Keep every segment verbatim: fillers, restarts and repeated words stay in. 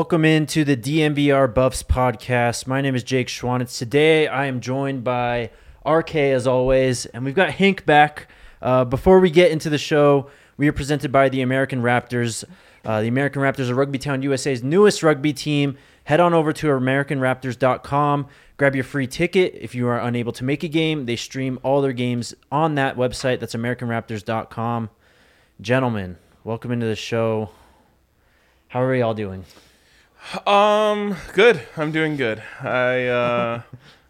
Welcome into the D M V R Buffs podcast. My name is Jake Schwanitz. Today I am joined by R K as always, and we've got Hank back. Uh, before we get into the show, we are presented by the American Raptors. Uh, the American Raptors are Rugby Town U S A's newest rugby team. Head on over to American Raptors dot com. Grab your free ticket. If you are unable to make a game, they stream all their games on that website. That's American Raptors dot com. Gentlemen, welcome into the show. How are we all doing? Um, good. I'm doing good. I uh,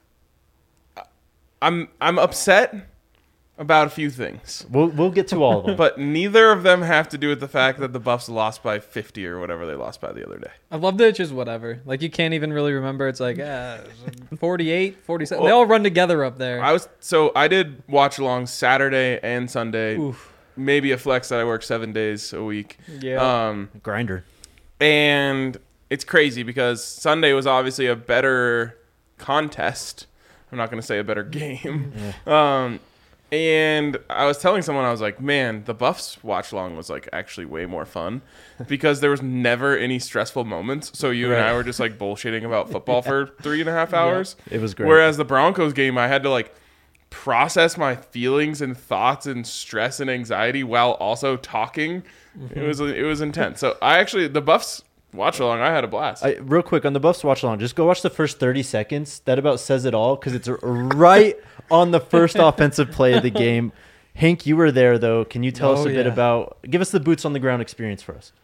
I'm I'm upset about a few things. We'll we'll get to all of them. But neither of them have to do with the fact that the Buffs lost by fifty or whatever they lost by the other day. I love that it's just whatever. Like, you can't even really remember. It's like, uh, forty-eight, forty-seven. Well, they all run together up there. I was so I did watch along Saturday and Sunday. Oof. Maybe a flex that I work seven days a week. Yeah. Um, Grinder. And it's crazy because Sunday was obviously a better contest. I'm not going to say a better game. Yeah. Um, and I was telling someone, I was like, man, the Buffs watch along was like actually way more fun because there was never any stressful moments. So you Right. and I were just like bullshitting about football for three and a half hours. Yeah, it was great. Whereas the Broncos game, I had to like process my feelings and thoughts and stress and anxiety while also talking. Mm-hmm. It was it was intense. So I actually the Buffs watch along. I had a blast. I, real quick on the Buffs watch along, just go watch the first thirty seconds. That about says it all because it's right on the first offensive play of the game. Hank, you were there though. Can you tell Oh, us a bit yeah. about? Give us the boots on the ground experience for us.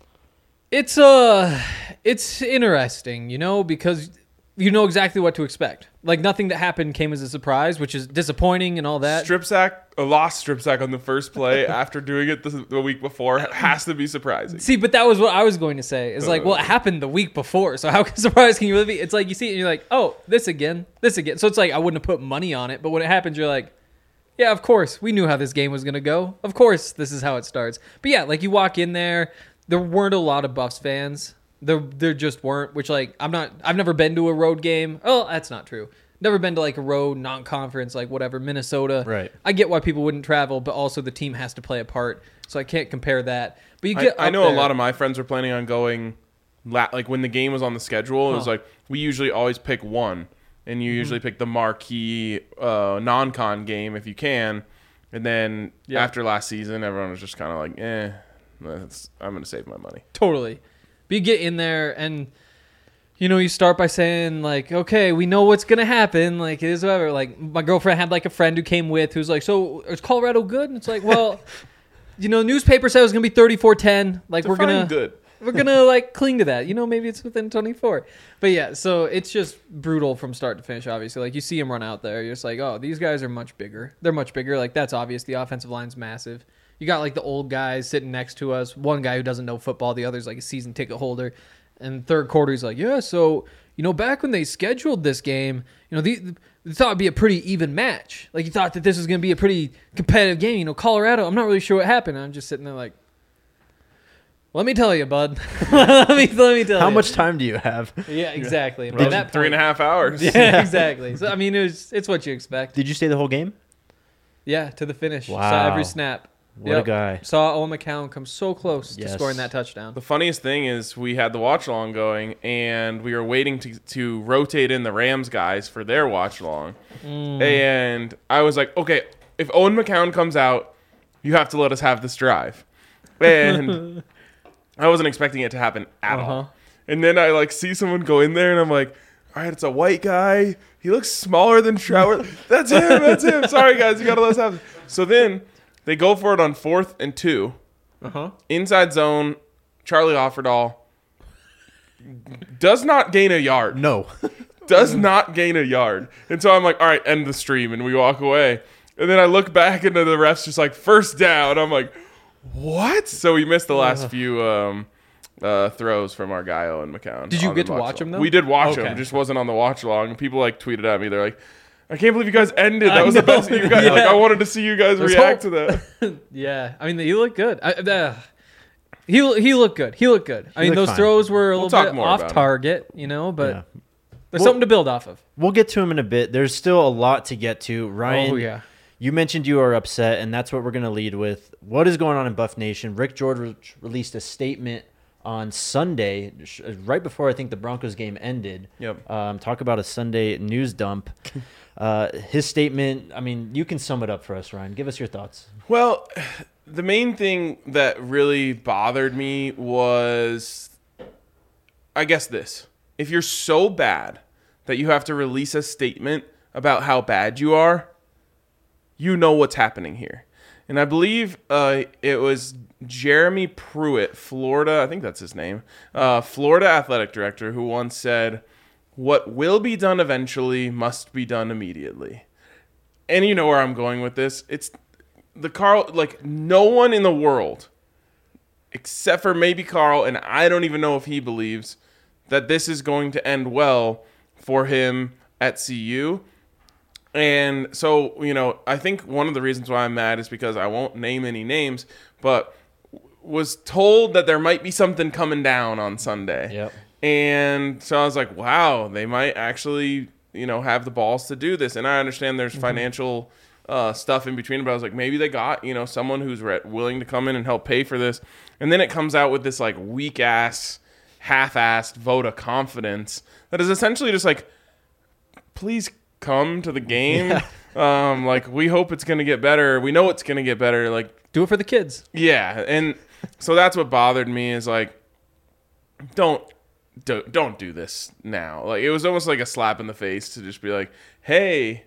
It's uh, it's interesting, you know, because you know exactly what to expect. Like, nothing that happened came as a surprise, which is disappointing and all that. Strip sack, a lost strip sack on the first play after doing it the, the week before has to be surprising. See, but that was what I was going to say. It's like, well, it happened the week before, so how surprised can you really be? It's like you see it and you're like, oh, this again, this again. So it's like I wouldn't have put money on it, but when it happens, you're like, yeah, of course, we knew how this game was going to go. Of course, this is how it starts. But yeah, like you walk in there, there weren't a lot of Buffs fans. There, there just weren't, which like, I'm not, I've never been to a road game. Oh, that's not true. Never been to like a road non-conference, like whatever, Minnesota. Right. I get why people wouldn't travel, but also the team has to play a part, so I can't compare that. But you get, I, I up know there- a lot of my friends were planning on going, la- like when the game was on the schedule, it was Huh. like, we usually always pick one, and you Mm-hmm. usually pick the marquee uh, non-con game if you can, and then Yeah. after last season, everyone was just kind of like, eh, that's, I'm going to save my money. Totally. But you get in there and, you know, you start by saying, like, okay, we know what's going to happen. Like, it is whatever. Like, my girlfriend had, like, a friend who came with who's like, so is Colorado good? And it's like, well, you know, newspaper said it was going to be thirty-four ten. Like, we're Define going to, good. we're going to, like, cling to that. You know, maybe it's within twenty-four. But, yeah, so it's just brutal from start to finish, obviously. Like, you see them run out there. You're just like, oh, these guys are much bigger. They're much bigger. Like, that's obvious. The offensive line's massive. You got, like, the old guys sitting next to us. One guy who doesn't know football. The other's, like, a season ticket holder. And third quarter, he's like, yeah, so, you know, back when they scheduled this game, you know, the, they thought it'd be a pretty even match. Like, you thought that this was going to be a pretty competitive game. You know, Colorado, I'm not really sure what happened. I'm just sitting there like, let me tell you, bud. let me let me tell How you. much time do you have? Yeah, exactly. By Three that three and a point- half hours. Yeah, exactly. So, I mean, it was, it's what you expect. Did you stay the whole game? Yeah, to the finish. Saw Wow. every snap. What Yep. a guy. Saw Owen McCown come so close Yes. to scoring that touchdown. The funniest thing is we had the watch along going, and we were waiting to to rotate in the Rams guys for their watch along. Mm. And I was like, okay, if Owen McCown comes out, you have to let us have this drive. And I wasn't expecting it to happen at Uh-huh. all. And then I like see someone go in there, and I'm like, all right, it's a white guy. He looks smaller than Trower. That's him. That's him. Sorry, guys, you gotta let us have it. So then they go for it on fourth and two. Uh-huh. Inside zone, Charlie Offerdahl does not gain a yard. No. Does not gain a yard. And so I'm like, all right, end the stream. And we walk away. And then I look back into the refs just like, first down. I'm like, what? So we missed the last few um, uh, throws from our guy, Owen McCown. Did you on get the to watch along. him, though? We did watch Okay. him. Just wasn't on the watch along. And people like tweeted at me. They're like, I can't believe you guys ended. That I was the know. best you guys. Yeah. Like, I wanted to see you guys There's react hope. to that. Yeah, I mean, he looked good. I, uh, he he looked good. He looked good. I mean, looked those fine. throws were a We'll little talk bit more off about him. target, you know, but Yeah. there's Well- something to build off of. We'll get to him in a bit. There's still a lot to get to. Ryan, Oh yeah, you mentioned you are upset, and that's what we're going to lead with. What is going on in Buff Nation? Rick George re- released a statement on Sunday, sh- right before I think the Broncos game ended. Yep. Um, talk about a Sunday news dump. Uh, his statement, I mean, you can sum it up for us, Ryan. Give us your thoughts. Well, the main thing that really bothered me was, I guess this. If you're so bad that you have to release a statement about how bad you are, you know what's happening here. And I believe uh, it was Jeremy Pruitt, Florida, I think that's his name, uh, Florida athletic director, who once said, "What will be done eventually must be done immediately." And you know where I'm going with this. It's the Carl, like no one in the world, except for maybe Carl, and I don't even know if he believes that this is going to end well for him at C U. And so, you know, I think one of the reasons why I'm mad is because I won't name any names, but was told that there might be something coming down on Sunday. Yep. And so I was like, wow, they might actually, you know, have the balls to do this. And I understand there's mm-hmm. financial uh, stuff in between, but I was like, maybe they got, you know, someone who's re- willing to come in and help pay for this. And then it comes out with this like weak ass, half-assed vote of confidence that is essentially just like, please come to the game. Yeah. Um, like, we hope it's going to get better. We know it's going to get better. Like, do it for the kids. Yeah. And so that's what bothered me is like, don't, don't, don't do this now. Like, it was almost like a slap in the face to just be like, hey,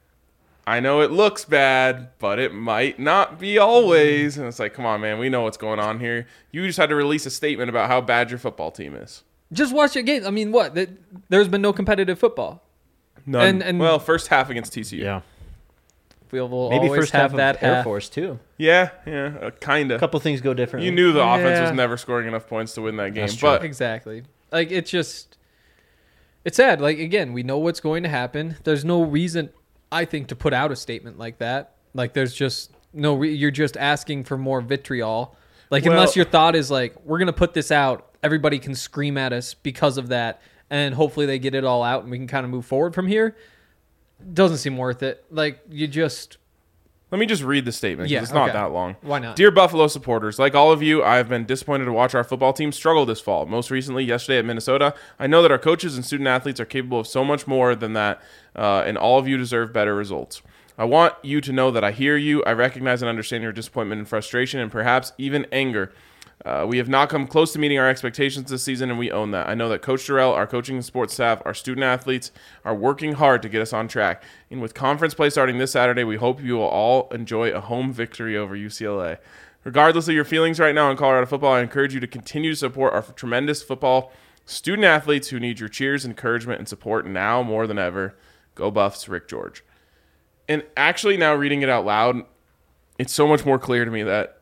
I know it looks bad, but it might not be always. And it's like, come on, man, we know what's going on here. You just had to release a statement about how bad your football team is. Just watch your games. I mean, what? There's been no competitive football. None. And, and well, first half against T C U. Yeah. We will Maybe always first have half that of Air half. Force too. Yeah, yeah, uh, kind A of. couple things go differently. You knew the yeah. offense was never scoring enough points to win that game. That's true. But exactly. Like, it's just, it's sad. Like, again, we know what's going to happen. There's no reason, I think, to put out a statement like that. Like, there's just no, re- you're just asking for more vitriol. Like, well, unless your thought is like, we're going to put this out, everybody can scream at us because of that, and hopefully they get it all out and we can kind of move forward from here. Doesn't seem worth it. Like, you just... Let me just read the statement because Yeah, it's not okay. that long. Why not? Dear Buffalo supporters, like all of you, I have been disappointed to watch our football team struggle this fall. Most recently, yesterday at Minnesota. I know that our coaches and student athletes are capable of so much more than that, uh, and all of you deserve better results. I want you to know that I hear you. I recognize and understand your disappointment and frustration and perhaps even anger. Uh, we have not come close to meeting our expectations this season, and we own that. I know that Coach Durrell, our coaching and sports staff, our student athletes are working hard to get us on track. And with conference play starting this Saturday, we hope you will all enjoy a home victory over U C L A. Regardless of your feelings right now in Colorado football, I encourage you to continue to support our tremendous football student athletes who need your cheers, encouragement, and support now more than ever. Go Buffs, Rick George. And actually now reading it out loud, it's so much more clear to me that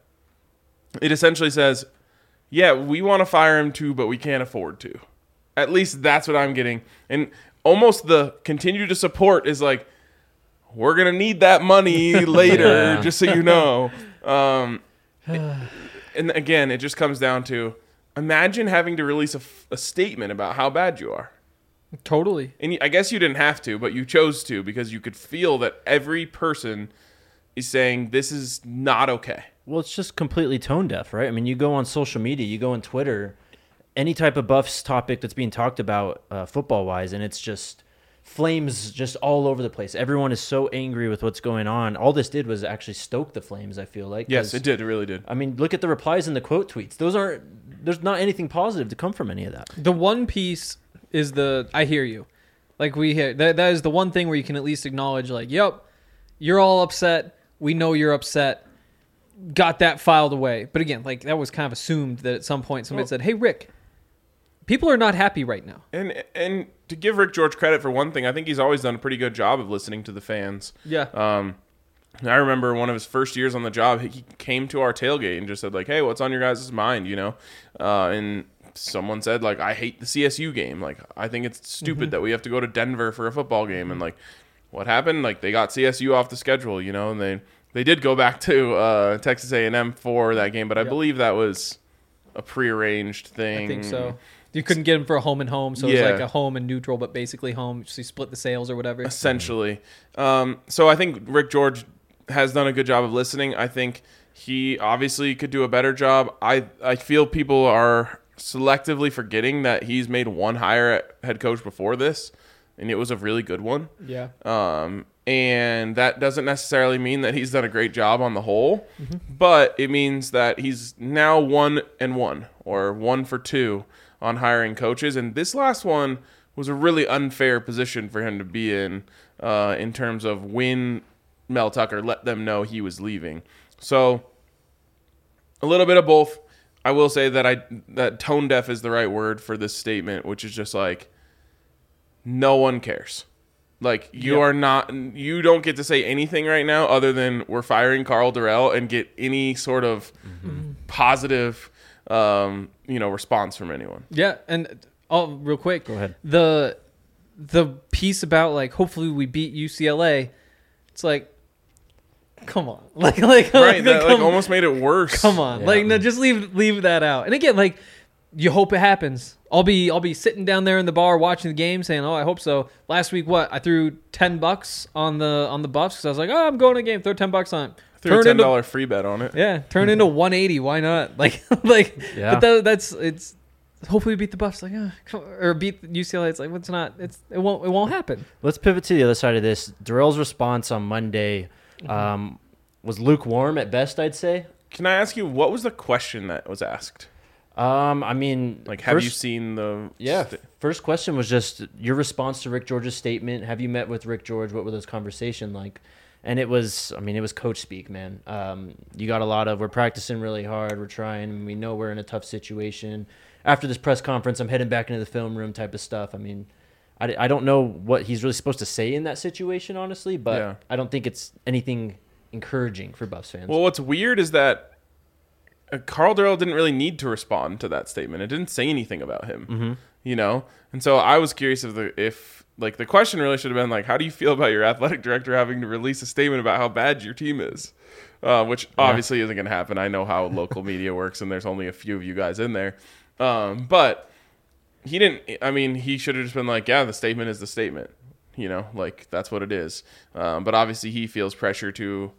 it essentially says, yeah, we want to fire him too, but we can't afford to. At least that's what I'm getting. And almost the continue to support is like, we're going to need that money later, Yeah. just so you know. Um, and again, it just comes down to, imagine having to release a, a statement about how bad you are. Totally. And I guess you didn't have to, but you chose to because you could feel that every person is saying this is not okay. Well, it's just completely tone deaf, right? I mean, you go on social media, you go on Twitter, any type of Buffs topic that's being talked about uh, football-wise, and it's just flames just all over the place. Everyone is so angry with what's going on. All this did was actually stoke the flames, I feel like. Yes, it did. It really did. I mean, look at the replies and the quote tweets. Those aren't, there's not anything positive to come from any of that. The one piece is the, I hear you. Like, we hear, that, that is the one thing where you can at least acknowledge, like, yep, you're all upset. We know you're upset. Got that filed away. But again, like, that was kind of assumed that at some point somebody Well, said, hey, Rick, people are not happy right now. And and to give Rick George credit for one thing, I think he's always done a pretty good job of listening to the fans. Yeah. Um, I remember one of his first years on the job, he came to our tailgate and just said, like, hey, what's on your guys' mind, you know? Uh, and someone said, like, I hate the C S U game. Like, I think it's stupid Mm-hmm. that we have to go to Denver for a football game. And, like, what happened? Like, they got C S U off the schedule, you know, and they... They did go back to uh, Texas A and M for that game, but I Yep. believe that was a prearranged thing. I think so. You couldn't get him for a home and home, so it Yeah. was like a home and neutral, but basically home. So you split the sales or whatever. Essentially. Um, so I think Rick George has done a good job of listening. I think he obviously could do a better job. I, I feel people are selectively forgetting that he's made one hire at head coach before this, and it was a really good one. Yeah. Um, and that doesn't necessarily mean that he's done a great job on the whole, Mm-hmm. but it means that he's now one and one or one for two on hiring coaches. And this last one was a really unfair position for him to be in, uh, in terms of when Mel Tucker let them know he was leaving. So a little bit of both. I will say that I that tone deaf is the right word for this statement, which is just like, no one cares. Like, you Yep. are not, you don't get to say anything right now other than we're firing Carl Durrell and get any sort of Mm-hmm. positive, um, you know, response from anyone. Yeah, and oh, real quick, Go ahead. The the piece about like hopefully we beat U C L A. It's like, come on, like like Right, that like come, almost made it worse. come on, Yeah. like no, just leave leave that out. And again, like you hope it happens. I'll be I'll be sitting down there in the bar watching the game, saying, "Oh, I hope so." Last week, what I threw ten bucks on the on the Buffs because I was like, "Oh, I'm going to the game. Throw ten bucks on." it." Threw a Turn ten into dollar free bet on it. yeah, turn into one eighty. Why not? Like like, Yeah. but that, that's it's. Hopefully, we beat the Buffs, like, oh, come on, or beat U C L A. It's like, it's not. It's it won't it won't happen. Let's pivot to the other side of this. Darrell's response on Monday um, was lukewarm at best, I'd say. Can I ask you, what was the question that was asked? Um, I mean, Like, have first, you seen the... Yeah, st- first question was just your response to Rick George's statement. Have you met with Rick George? What were those conversations like? And it was, I mean, it was coach speak, man. Um, you got a lot of, we're practicing really hard, we're trying, we know we're in a tough situation. After this press conference, I'm heading back into the film room type of stuff. I mean, I, I don't know what he's really supposed to say in that situation, honestly, but Yeah. I don't think it's anything encouraging for Buffs fans. Well, what's weird is that uh, Carl Durrell didn't really need to respond to that statement. It didn't say anything about him, mm-hmm. you know? And so I was curious if the if like the question really should have been like, how do you feel about your athletic director having to release a statement about how bad your team is? Uh, which obviously isn't going to happen. I know how local media works, and there's only a few of you guys in there. Um, but he didn't. I mean, he should have just been like, yeah, the statement is the statement. You know, like that's what it is. Um, but obviously, he feels pressure to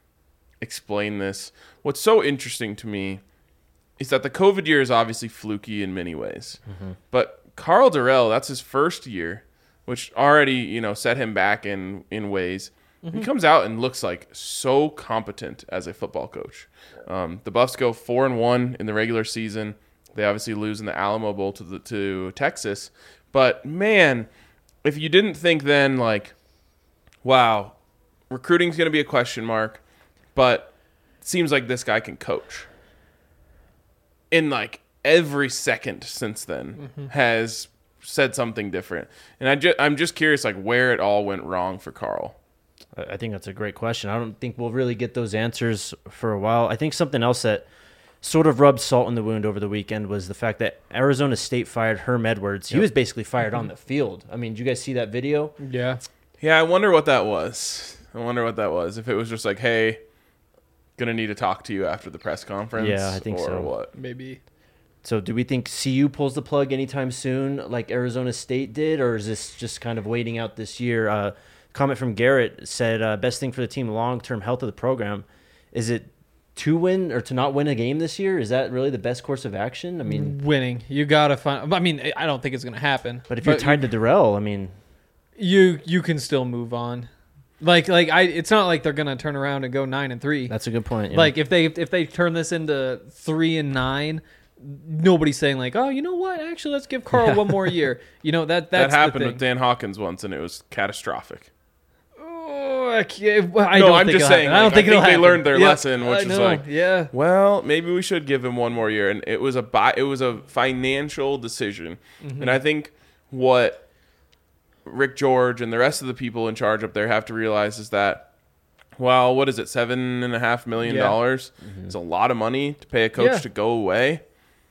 explain this. What's so interesting to me is that the COVID year is obviously fluky in many ways. Mm-hmm. But Carl Durrell, that's his first year, which already, you know, set him back in, in ways. Mm-hmm. He comes out and looks like so competent as a football coach. Um, the Buffs go four and one in the regular season. They obviously lose in the Alamo Bowl to the, to Texas. But man, if you didn't think then like, wow, recruiting's going to be a question mark, but it seems like this guy can coach. In like every second since then Mm-hmm. has said something different. And I ju- I'm just curious like where it all went wrong for Carl. I I think that's a great question. I don't think we'll really get those answers for a while. I think something else that sort of rubbed salt in the wound over the weekend was the fact that Arizona State fired Herm Edwards. He Yep. was basically fired on the field. I mean, did you guys see that video? Yeah. Yeah, I wonder what that was. I wonder what that was. If it was just like, hey, gonna need to talk to you after the press conference. Yeah, I think or so. what? Maybe. So do we think C U pulls the plug anytime soon like Arizona State did, or is this just kind of waiting out this year? Uh, comment from Garrett said, uh, best thing for the team, long-term health of the program. Is it to win or to not win a game this year? Is that really the best course of action? I mean, Winning. You gotta find. I mean, I don't think it's gonna happen. but if you're tied to Darrell, I mean, you you can still move on. Like like I, it's not like they're gonna turn around and go nine and three. that's a good point. yeah. Like if they if they turn this into three and nine, nobody's saying like, oh, you know what? Actually, let's give Carl one more year. You know that That that's happened the with Dan Hawkins once, and it was catastrophic. Oh, I can't, well, I No, don't I'm think just it'll saying, happen. I don't like, think I it'll think they happen. learned their Yeah, lesson, which I is know, like, yeah. Well, maybe we should give him one more year, and it was a buy, it was a financial decision, Mm-hmm. and I think what Rick George and the rest of the people in charge up there have to realize is that, well, what is it, seven and a half million Yeah. dollars? It's a lot of money to pay a coach Yeah. to go away.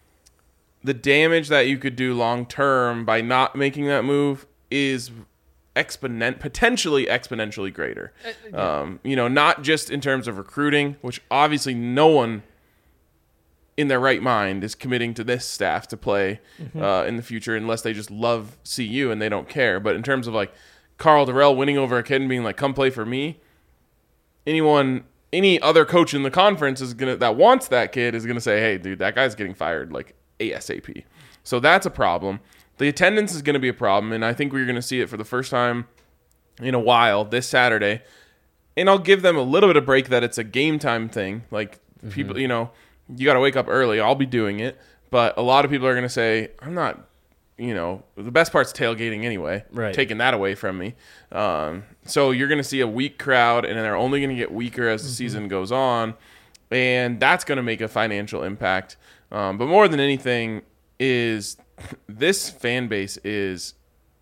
The damage that you could do long term by not making that move is exponent potentially exponentially greater. Um, you know, not just in terms of recruiting, which obviously no one in their right mind is committing to this staff to play uh, in the future unless they just love C U and they don't care. But in terms of like Carl Durrell winning over a kid and being like, "Come play for me," anyone, any other coach in the conference is gonna that wants that kid is gonna say, "Hey, dude, that guy's getting fired like ASAP. So that's a problem. The attendance is going to be a problem, and I think we're going to see it for the first time in a while this Saturday. And I'll give them a little bit of break that it's a game time thing. Like, mm-hmm. people, you know, you got to wake up early. I'll be doing it. But a lot of people are going to say, I'm not, you know, the best part's tailgating anyway. Right. Taking that away from me. Um, so you're going to see a weak crowd, and they're only going to get weaker as the mm-hmm. season goes on. And that's going to make a financial impact. Um, but more than anything is this fan base is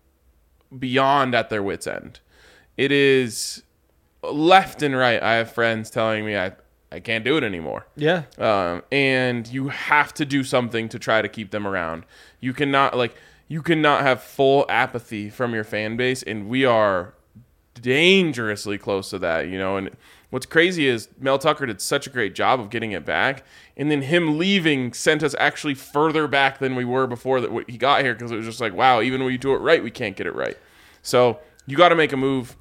beyond at their wits' end. It is left and right. I have friends telling me I, I can't do it anymore. Yeah. Um, and you have to do something to try to keep them around. You cannot like you cannot have full apathy from your fan base, and we are dangerously close to that, you know. And what's crazy is Mel Tucker did such a great job of getting it back, and then him leaving sent us actually further back than we were before that he got here, because it was just like, wow, even when you do it right, we can't get it right. So you got to make a move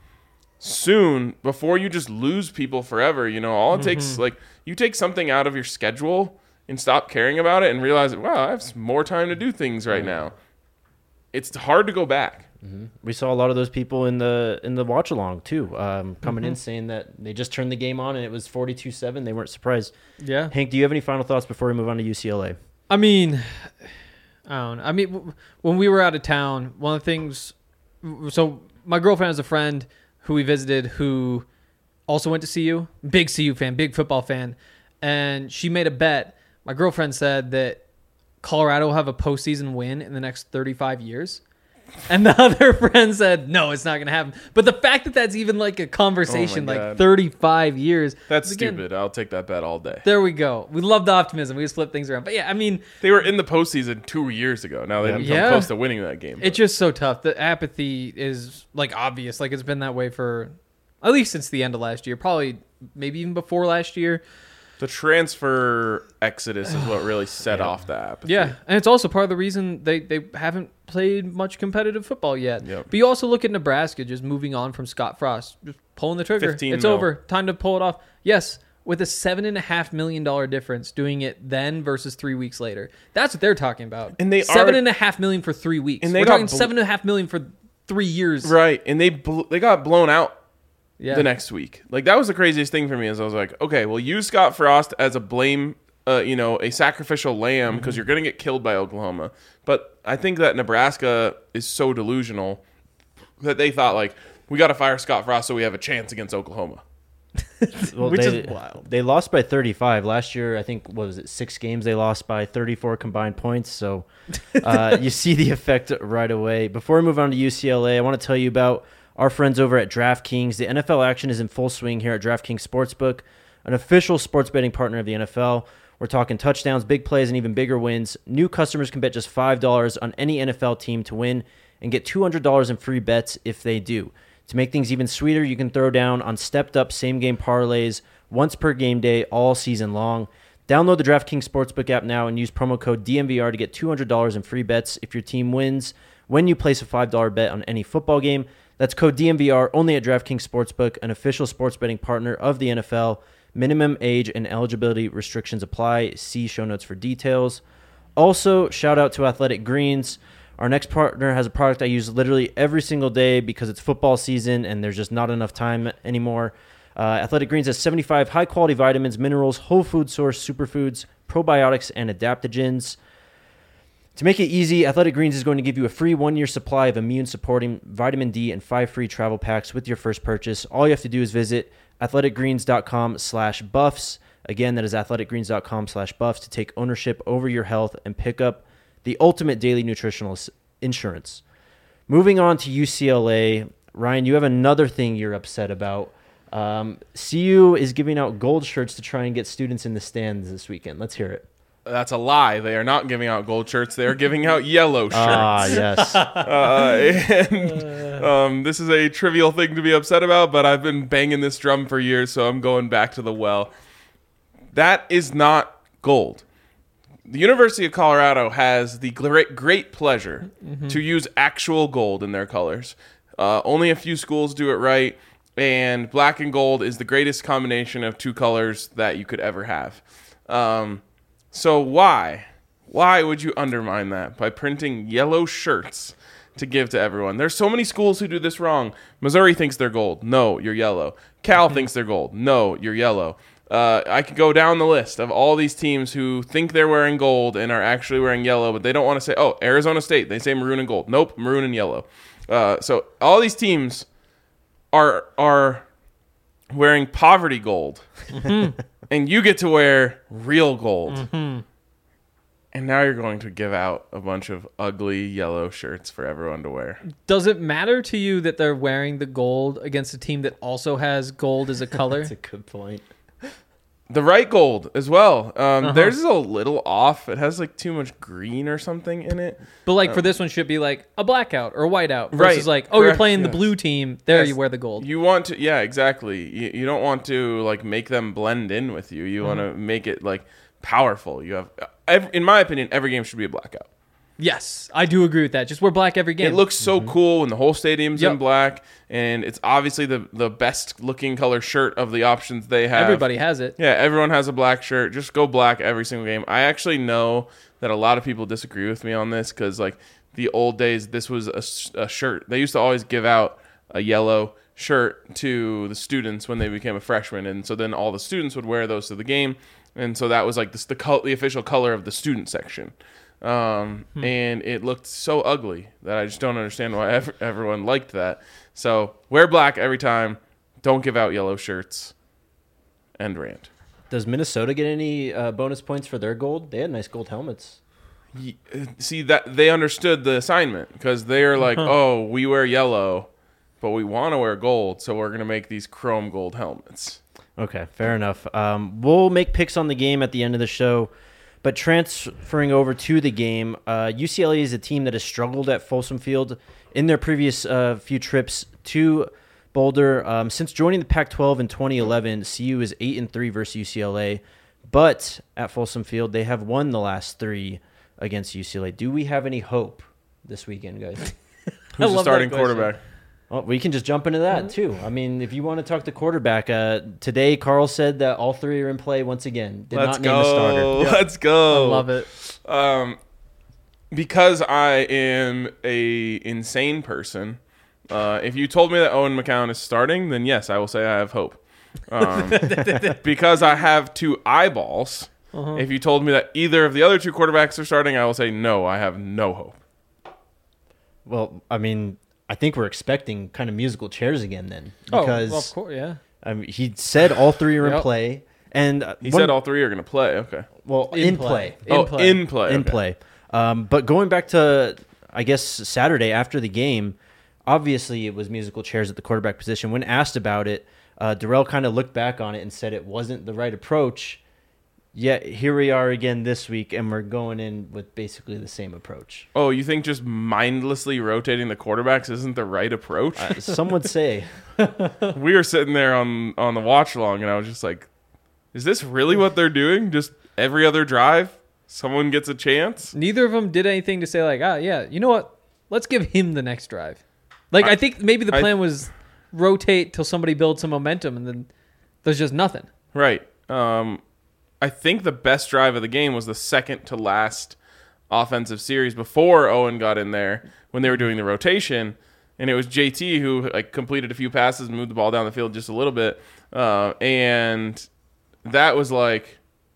soon before you just lose people forever. You know, all it mm-hmm. takes, like, you take something out of your schedule and stop caring about it and realize, wow, I have more time to do things right now. It's hard to go back. Mm-hmm. We saw a lot of those people in the in the watch along too, um, coming mm-hmm. in saying that they just turned the game on and it was forty-two seven. They weren't surprised. Yeah. Hank, do you have any final thoughts before we move on to U C L A? I mean, I don't know. I mean, w- when we were out of town, one of the things. So my girlfriend has a friend who we visited who also went to C U, big C U fan, big football fan, and she made a bet. My girlfriend said that Colorado will have a postseason win in the next thirty-five years. And the other friend said, no, it's not going to happen. But the fact that that's even like a conversation, oh like thirty-five years. That's again, stupid. I'll take that bet all day. There we go. We love the optimism. We just flip things around. But yeah, I mean. They were in the postseason two years ago. Now they didn't yeah. come close to winning that game. It's just so tough. The apathy is like obvious. Like it's been that way for at least since the end of last year. Probably maybe even before last year. The transfer exodus is what really set yeah. off the apathy. Yeah, and it's also part of the reason they, they haven't played much competitive football yet. Yep. But you also look at Nebraska just moving on from Scott Frost, just pulling the trigger. It's mil. over. Time to pull it off. Yes, with a seven and a half million dollar difference, doing it then versus three weeks later. That's what they're talking about. And they seven are, and a half million for three weeks. And they We're got talking bl- seven and a half million for three years. Right, and they bl- they got blown out. Yeah. The next week. Like, that was the craziest thing for me, is I was like, okay, well, use Scott Frost as a blame, uh, you know, a sacrificial lamb, because mm-hmm. you're going to get killed by Oklahoma. But I think that Nebraska is so delusional that they thought, like, we got to fire Scott Frost so we have a chance against Oklahoma. Well, Which they, is wild. They lost by thirty-five. Last year, I think, what was it, six games they lost by thirty-four combined points. So uh, you see the effect right away. Before we move on to U C L A, I want to tell you about our friends over at DraftKings. The N F L action is in full swing here at DraftKings Sportsbook, an official sports betting partner of the N F L. We're talking touchdowns, big plays, and even bigger wins. New customers can bet just five dollars on any N F L team to win and get two hundred dollars in free bets if they do. To make things even sweeter, you can throw down on stepped-up same-game parlays once per game day all season long. Download the DraftKings Sportsbook app now and use promo code D M V R to get two hundred dollars in free bets if your team wins when you place a five dollars bet on any football game. That's code D M V R only at DraftKings Sportsbook, an official sports betting partner of the N F L. Minimum age and eligibility restrictions apply. See show notes for details. Also, shout out to Athletic Greens. Our next partner has a product I use literally every single day because it's football season and there's just not enough time anymore. Uh, Athletic Greens has seventy-five high-quality vitamins, minerals, whole food source superfoods, probiotics, and adaptogens. To make it easy, Athletic Greens is going to give you a free one-year supply of immune-supporting vitamin D and five free travel packs with your first purchase. All you have to do is visit athleticgreens.com slash buffs. Again, that is athleticgreens.com slash buffs to take ownership over your health and pick up the ultimate daily nutritional insurance. Moving on to U C L A. Ryan, you have another thing you're upset about. Um, C U is giving out gold shirts to try and get students in the stands this weekend. Let's hear it. That's a lie. They are not giving out gold shirts. They are giving out yellow shirts. Ah, yes. uh, and um, this is a trivial thing to be upset about, but I've been banging this drum for years, so I'm going back to the well. That is not gold. The University of Colorado has the great, great pleasure mm-hmm. to use actual gold in their colors. Uh, only a few schools do it right, and black and gold is the greatest combination of two colors that you could ever have. Um, so why? Why would you undermine that by printing yellow shirts to give to everyone? There's so many schools who do this wrong. Missouri thinks they're gold. No, you're yellow. Cal thinks they're gold. No, you're yellow. Uh, I could go down the list of all these teams who think they're wearing gold and are actually wearing yellow, but they don't want to say, oh, Arizona State, they say maroon and gold. Nope, maroon and yellow. Uh, so all these teams are are wearing poverty gold, and you get to wear real gold. Mm-hmm. And now you're going to give out a bunch of ugly yellow shirts for everyone to wear. Does it matter to you that they're wearing the gold against a team that also has gold as a color? That's a good point. The right gold as well. Um, Uh-huh. Theirs is a little off. It has like too much green or something in it. But like for this one, should be like a blackout or a whiteout versus Right. like, oh, you're Correct. playing the Yes. blue team. There, Yes. you wear the gold. You want to, yeah, exactly. You, you don't want to like make them blend in with you. You want to make it like powerful. You have, every, in my opinion, every game should be a blackout. Yes, I do agree with that. Just wear black every game. It looks so cool when the whole stadium's in Yep. black, and it's obviously the the best looking color shirt of the options they have. Everybody has it. Yeah, everyone has a black shirt. Just go black every single game. I actually know that a lot of people disagree with me on this because, like, the old days, this was a, s- a shirt. They used to always give out a yellow shirt to the students when they became a freshman, and so then all the students would wear those to the game, and so that was like this, the col- the official color of the student section. Um, Hmm. and it looked so ugly that I just don't understand why ev- everyone liked that. So wear black every time. Don't give out yellow shirts. End rant. Does Minnesota get any uh, bonus points for their gold? They had nice gold helmets. Y- uh, See that they understood the assignment because they're like, oh, we wear yellow, but we want to wear gold, so we're gonna make these chrome gold helmets. Okay, fair enough. Um, we'll make picks on the game at the end of the show. But transferring over to the game, uh, U C L A is a team that has struggled at Folsom Field in their previous uh, few trips to Boulder. Um, since joining the Pac twelve in twenty eleven, C U is eight and three versus U C L A. But at Folsom Field, they have won the last three against U C L A. Do we have any hope this weekend, guys? Who's love the that starting question. quarterback? Well, we can just jump into that, too. I mean, if you want to talk to quarterback, uh, today Carl said that all three are in play once again. Did Let's not name a starter. go. Let's go. I love it. Um, because I am a insane person. Uh, if you told me that Owen McCown is starting, then yes, I will say I have hope. Um, because I have two eyeballs. Uh-huh. If you told me that either of the other two quarterbacks are starting, I will say no. I have no hope. Well, I mean, I think we're expecting kind of musical chairs again then. Oh, Because well, of course, yeah. I mean, he said all three are in Yep. play. And uh, He one- said all three are going to play. Okay. well, in, In play. play. oh, play. in play. In okay. play. Um, but going back to, I guess, Saturday after the game, obviously it was musical chairs at the quarterback position. When asked about it, uh, Darrell kind of looked back on it and said it wasn't the right approach. Yet here we are again this week, and we're going in with basically the same approach. Oh, you think just mindlessly rotating the quarterbacks isn't the right approach? Uh, some would say. We were sitting there on on the watch long, and I was just like, "Is this really what they're doing? Just every other drive, someone gets a chance." Neither of them did anything to say like, ah, yeah, you know what? Let's give him the next drive. Like, I, I- think maybe the I- plan was rotate till somebody builds some momentum, and then there's just nothing. Right. Um, I think the best drive of the game was the second to last offensive series before Owen got in there when they were doing the rotation, and it was J T who like completed a few passes and moved the ball down the field just a little bit, uh, and that was like,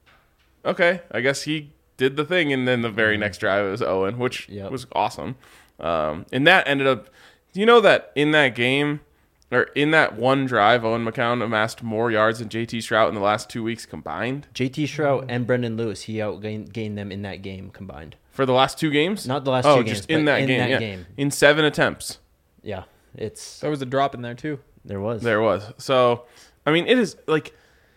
okay, I guess he did the thing, and then the very next drive was Owen, which Yep. was awesome, um, and that ended up. Do you know that in that game? Or in that one drive, Owen McCown amassed more yards than J T Shrout in the last two weeks combined J T Shrout and Brendan Lewis, he outgained gained them in that game combined. for the last two games. Not the last oh, two games, just in but that in game. that yeah. game. In seven attempts, Yeah, it's There was a drop in there too. there was. there was. So, I mean, it is like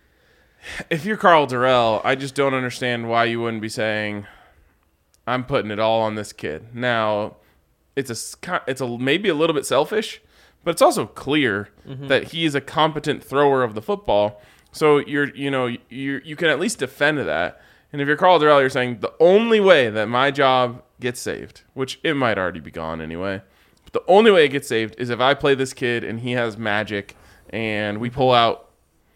if you're Carl Durrell, I just don't understand why you wouldn't be saying, "I'm putting it all on this kid." Now, it's a s- it's a maybe a little bit selfish, but it's also clear that he is a competent thrower of the football. So you're, you know, you you can at least defend that. And if you're Carl Durrell, you're saying the only way that my job gets saved, which it might already be gone anyway, but the only way it gets saved is if I play this kid and he has magic and we pull out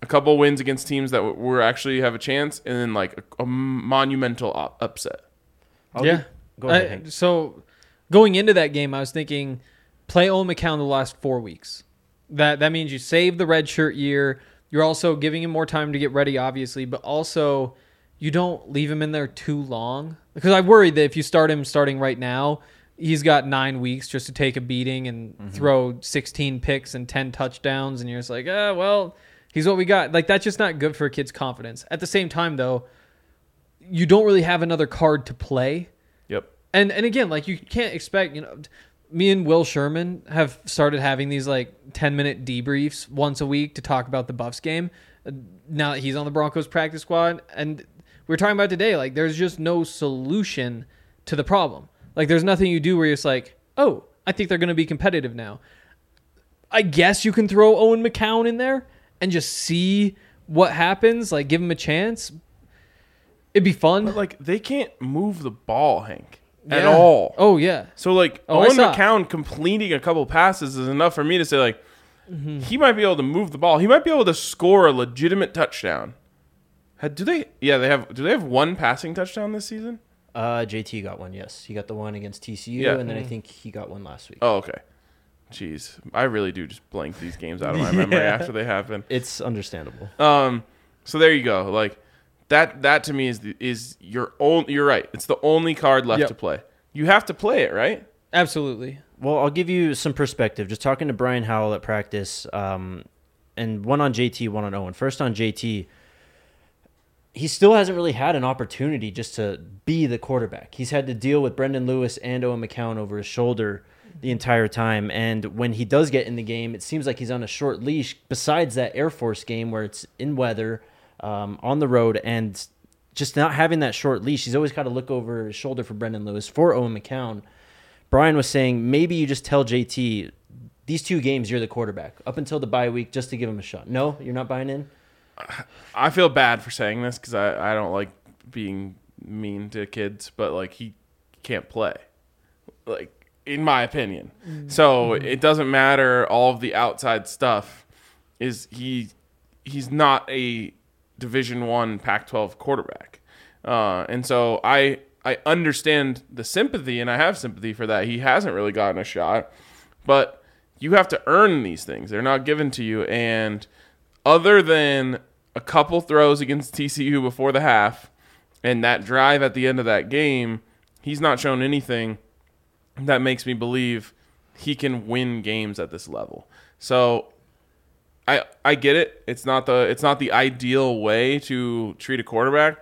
a couple wins against teams that w- were actually have a chance, and then like a, a monumental op- upset. I'll yeah. give- Go ahead, I- Hank. so going into that game, I was thinking play Owen McCown the last four weeks. That that means you save the red shirt year. You're also giving him more time to get ready, obviously, but also you don't leave him in there too long. Because I worry that if you start him starting right now, he's got nine weeks just to take a beating and mm-hmm. throw sixteen picks and ten touchdowns, and you're just like, ah, well, he's what we got. Like, that's just not good for a kid's confidence. At the same time, though, you don't really have another card to play. Yep. And and again, like, you can't expect, you know, me and Will Sherman have started having these like ten minute debriefs once a week to talk about the Buffs game. Uh, now that he's on the Broncos practice squad, and we were talking about today, like, there's just no solution to the problem. Like, there's nothing you do where you're just like, oh, I think they're going to be competitive now. I guess you can throw Owen McCown in there and just see what happens. Like, give him a chance. It'd be fun. But like, they can't move the ball, Hank. At Yeah. all. Oh, yeah. So, like, Oh, I Owen saw. McCown completing a couple passes is enough for me to say, like, mm-hmm. he might be able to move the ball. He might be able to score a legitimate touchdown. Had- Do they? Yeah, they have. Do they have one passing touchdown this season? Uh, J T got one, yes. He got the one against T C U, Yeah. and then I think he got one last week. Oh, okay. Jeez, I really do just blank these games out of my memory Yeah. after they happen. It's understandable. Um, so there you go. Like that. That to me is the, is your own. You're right. It's the only card left Yep. to play. You have to play it, right? Absolutely. Well, I'll give you some perspective. Just talking to Brian Howell at practice, um, and one on J T, one on Owen. First on J T, he still hasn't really had an opportunity just to be the quarterback. He's had to deal with Brendan Lewis and Owen McCown over his shoulder the entire time. And when he does get in the game, it seems like he's on a short leash, besides that Air Force game where it's in weather, um, on the road, and just not having that short leash. He's always got to look over his shoulder for Brendan Lewis, for Owen McCown. Brian was saying maybe you just tell J T, these two games you're the quarterback up until the bye week just to give him a shot. No, you're not buying in? I feel bad for saying this because I, I don't like being mean to kids, but like he can't play, like in my opinion. Mm-hmm. So it doesn't matter all of the outside stuff. Is he? He's not a Division One Pac twelve quarterback, uh, and so I I understand the sympathy, and I have sympathy for that. He hasn't really gotten a shot, but you have to earn these things. They're not given to you, and other than a couple throws against T C U before the half and that drive at the end of that game, he's not shown anything that makes me believe he can win games at this level. So I I get it. It's not the it's not the ideal way to treat a quarterback.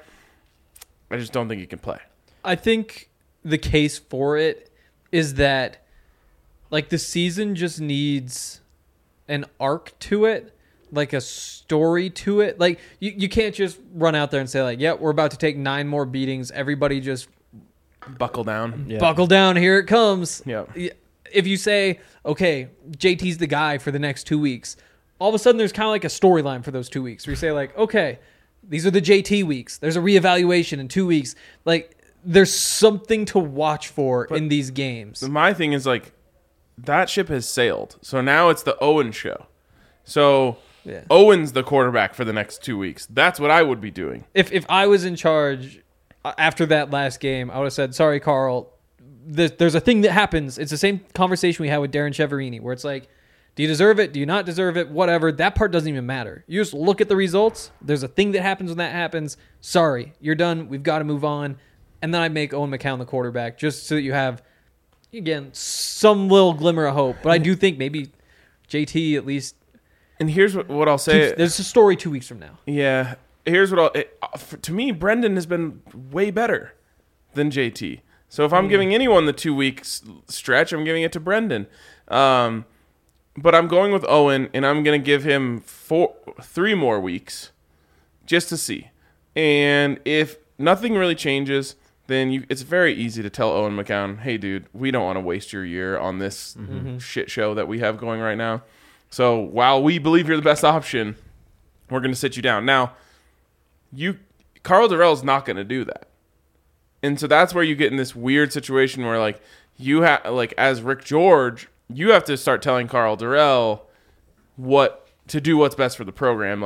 I just don't think he can play. I think the case for it is that, like, the season just needs an arc to it, like a story to it. Like, you, you can't just run out there and say, like, yeah, we're about to take nine more beatings. Everybody just Buckle down. Yeah. buckle down. Here it comes. Yeah. If you say, okay, J T's the guy for the next two weeks, all of a sudden there's kind of like a storyline for those two weeks where you say, like, okay, these are the J T weeks. There's a reevaluation in two weeks. Like, there's something to watch for But in these games. My thing is, like, that ship has sailed. So now it's the Owen show. So Yeah. Owen's the quarterback for the next two weeks. That's what I would be doing. If if I was in charge uh, after that last game, I would have said, sorry, Carl, there's, there's a thing that happens. It's the same conversation we had with Darren Cheverini, where it's like, do you deserve it? Do you not deserve it? Whatever. That part doesn't even matter. You just look at the results. There's a thing that happens when that happens. Sorry, you're done. We've got to move on. And then I make Owen McCown the quarterback just so that you have, again, some little glimmer of hope. But I do think maybe J T at least And here's what, what I'll say. keeps, there's a story two weeks from now. Yeah. Here's what I'll... It, uh, for, to me, Brendan has been way better than J T. So if I'm Mm. giving anyone the two weeks stretch, I'm giving it to Brendan. Um, but I'm going with Owen, and I'm going to give him four, three more weeks just to see. And if nothing really changes, then you, it's very easy to tell Owen McCown, hey, dude, we don't want to waste your year on this Mm-hmm. shit show that we have going right now. So while we believe you're the best option, we're going to sit you down. Now, you Carl Durrell's not going to do that. And so that's where you get in this weird situation where, like, you have, like, as Rick George, you have to start telling Carl Durrell what to do, what's best for the program. Like,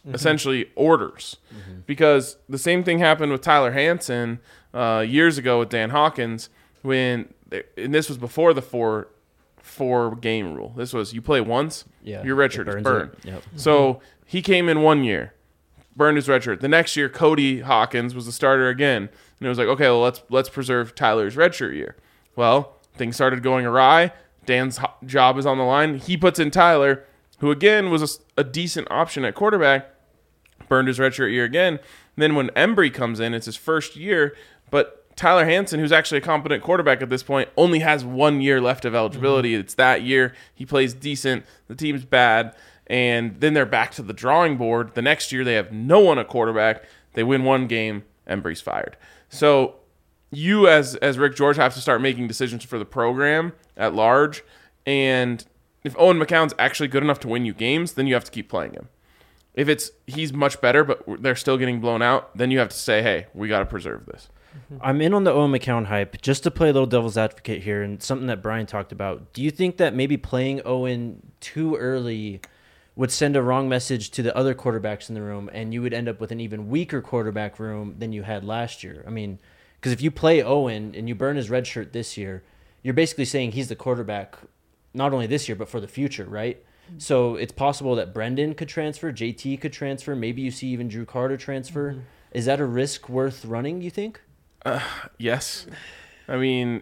mm-hmm. essentially orders. Mm-hmm. Because the same thing happened with Tyler Hansen uh, years ago with Dan Hawkins when, and this was before the four four game rule. This was you play once, yeah, your red shirt is burned. Yep. So he came in one year, burned his red shirt. The next year, Cody Hawkins was the starter again, and it was like, okay, well let's let's preserve Tyler's red shirt year. Well, things started going awry. Dan's ho- job is on the line. He puts in Tyler, who again was a, a decent option at quarterback, burned his redshirt year again. And then when Embry comes in, it's his first year, but Tyler Hansen, who's actually a competent quarterback at this point, only has one year left of eligibility. Mm-hmm. It's that year. He plays decent. The team's bad. And then they're back to the drawing board. The next year, they have no one at quarterback. They win one game. Embry's fired. So you, as as Rick George, have to start making decisions for the program at large. And if Owen McCown's actually good enough to win you games, then you have to keep playing him. If it's he's much better, but they're still getting blown out, then you have to say, hey, we got to preserve this. I'm in on the Owen McCown hype. Just to play a little devil's advocate here, and something that Brian talked about, do you think that maybe playing Owen too early would send a wrong message to the other quarterbacks in the room, and you would end up with an even weaker quarterback room than you had last year? I mean, because if you play Owen and you burn his red shirt this year, you're basically saying he's the quarterback not only this year, but for the future, right? Mm-hmm. So it's possible that Brendan could transfer, J T could transfer, maybe you see even Drew Carter transfer. Mm-hmm. Is that a risk worth running, you think? Uh, yes. I mean,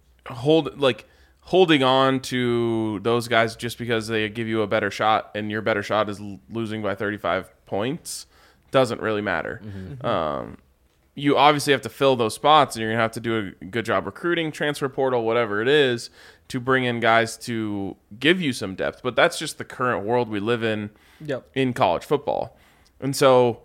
hold like holding on to those guys just because they give you a better shot and your better shot is l- losing by thirty-five points doesn't really matter. Mm-hmm. Um, you obviously have to fill those spots, and you're going to have to do a good job recruiting, transfer portal, whatever it is, to bring in guys to give you some depth. But that's just the current world we live in yep. in college football. And so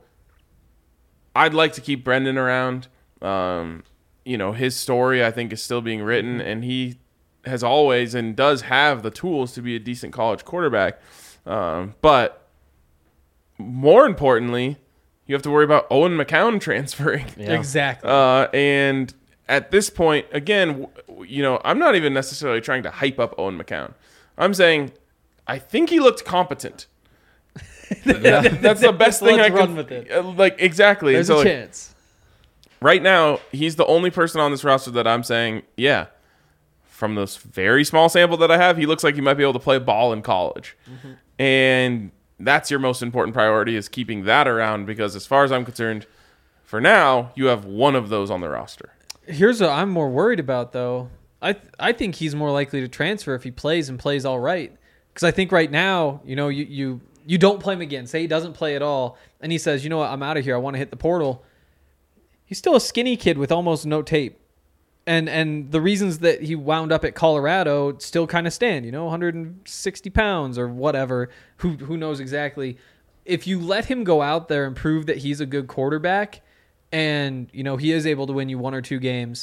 I'd like to keep Brendan around. Um, you know, his story, I think, is still being written, and he has always and does have the tools to be a decent college quarterback. Um, but more importantly, you have to worry about Owen McCown transferring. Yeah. Exactly. Uh, and at this point, again, w- you know, I'm not even necessarily trying to hype up Owen McCown. I'm saying I think he looked competent. yeah. That's the best thing Let's I run can. with it. Uh, like exactly. There's so, a like, chance. right now, he's the only person on this roster that I'm saying, yeah, from this very small sample that I have, he looks like he might be able to play ball in college. Mm-hmm. And that's your most important priority, is keeping that around, because as far as I'm concerned, for now, you have one of those on the roster. Here's what I'm more worried about, though. I th- I think he's more likely to transfer if he plays and plays all right. Because I think right now, you know, you, you, you don't play him again. Say he doesn't play at all, and he says, you know what, I'm out of here. I want to hit the portal. He's still a skinny kid with almost no tape. And and the reasons that he wound up at Colorado still kind of stand, you know, one hundred sixty pounds or whatever. Who who knows exactly. If you let him go out there and prove that he's a good quarterback and, you know, he is able to win you one or two games,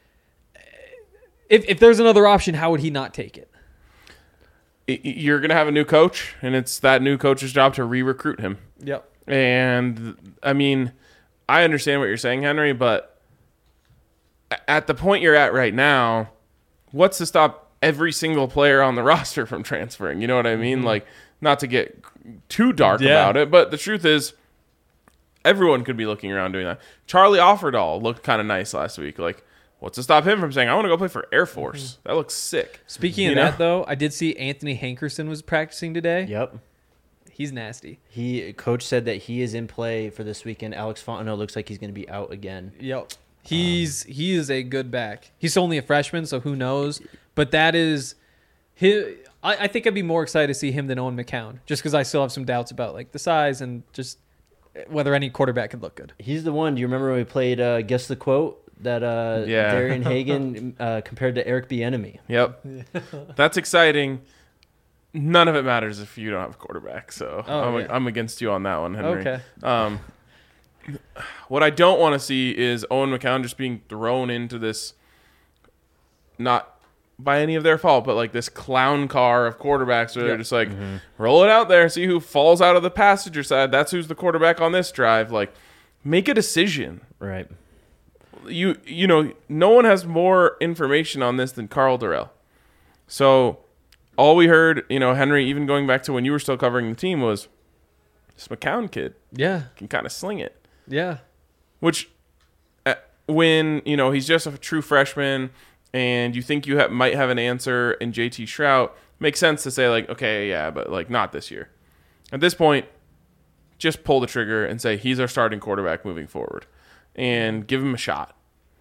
if if there's another option, how would he not take it? You're going to have a new coach, and it's that new coach's job to re-recruit him. Yep. And, I mean, I understand what you're saying, Henry, but at the point you're at right now, what's to stop every single player on the roster from transferring? You know what I mean? Mm-hmm. Like, not to get too dark yeah. about it, but the truth is, everyone could be looking around doing that. Charlie Offerdahl looked kind of nice last week. Like, what's to stop him from saying, I want to go play for Air Force? Mm-hmm. That looks sick. Speaking you of know? that, though, I did see Anthony Hankerson was practicing today. Yep. He's nasty. He Coach said that he is in play for this weekend. Alex Fontenot looks like he's going to be out again. Yep. He's um, he is a good back. He's only a freshman, so who knows? But that is his, I, I think I'd be more excited to see him than Owen McCown, just because I still have some doubts about like the size and just whether any quarterback could look good. He's the one. Do you remember when we played uh, Guess the Quote? That uh, yeah. Darian Hagan uh, compared to Eric Bieniemy. Yep. That's exciting. None of it matters if you don't have a quarterback. So oh, I'm, yeah. I'm against you on that one, Henry. Okay. Um, what I don't want to see is Owen McCown just being thrown into this, not by any of their fault, but like this clown car of quarterbacks where yep. they're just like, mm-hmm. roll it out there, see who falls out of the passenger side. That's who's the quarterback on this drive. Like, make a decision. Right. You you know, no one has more information on this than Carl Durrell. So all we heard, you know, Henry, even going back to when you were still covering the team, was this McCown kid Yeah. can kind of sling it. Yeah. Which, uh, when, you know, he's just a true freshman and you think you ha- might have an answer in J T Shrout, makes sense to say, like, okay, yeah, but, like, not this year. At this point, just pull the trigger and say he's our starting quarterback moving forward and give him a shot.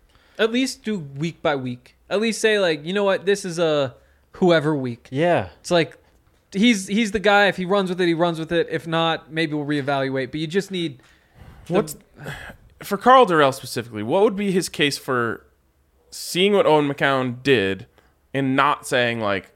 At least do week by week. At least say, like, you know what, this is a whoever week. Yeah. It's like he's he's the guy. If he runs with it, he runs with it. If not, maybe we'll reevaluate. But you just need the, What's for Carl Durrell specifically, what would be his case for seeing what Owen McCown did and not saying, like,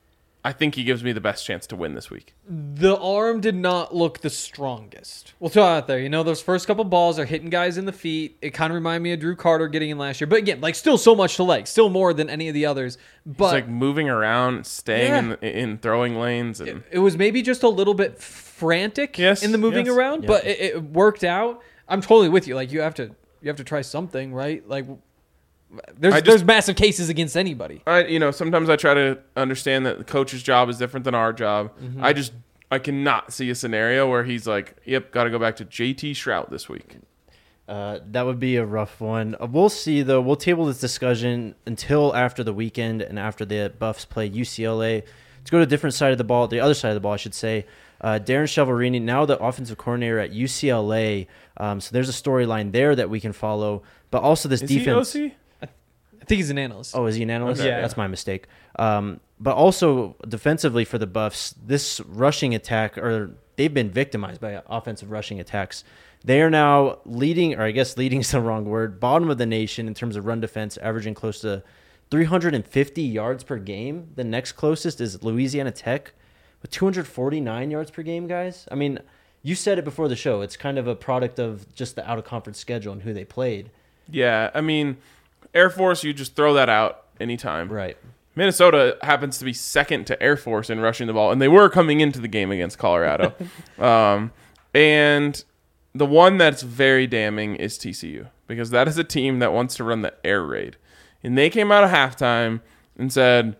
I think he gives me the best chance to win this week? the arm did not look the strongest. We'll throw it out there. You know, those first couple balls are hitting guys in the feet. It kind of reminded me of Drew Carter getting in last year. But again, like, still so much to like. Still more than any of the others. But It's like moving around, staying Yeah. in, the, in throwing lanes. and it, it was maybe just a little bit frantic Yes, in the moving yes. around, Yeah. but it, it worked out. I'm totally with you. Like, you have to you have to try something, right? Like, there's I just- there's massive cases against anybody. I, you know, sometimes I try to understand that the coach's job is different than our job. Mm-hmm. I just, I cannot see a scenario where he's like, yep, got to go back to J T Shrout this week. Uh, that would be a rough one. Uh, we'll see, though. We'll table this discussion until after the weekend and after the Buffs play U C L A. Let's go to a different side of the ball, the other side of the ball, I should say. Uh, Darren Chiaverini, now the offensive coordinator at U C L A. Um, so there's a storyline there that we can follow. But also this Is defense. he O C? I think he's an analyst. Oh, is he an analyst? Okay. Yeah. That's my mistake. Um, but also defensively for the Buffs, this rushing attack, or they've been victimized by offensive rushing attacks. They are now leading, or I guess leading is the wrong word, bottom of the nation in terms of run defense, averaging close to three hundred fifty yards per game. The next closest is Louisiana Tech with two hundred forty-nine yards per game, guys. I mean, you said it before the show. It's kind of a product of just the out-of-conference schedule and who they played. Yeah, I mean, Air Force, you just throw that out anytime. Right. Minnesota happens to be second to Air Force in rushing the ball, and they were coming into the game against Colorado. um, and the one that's very damning is T C U, because that is a team that wants to run the air raid. And they came out of halftime and said,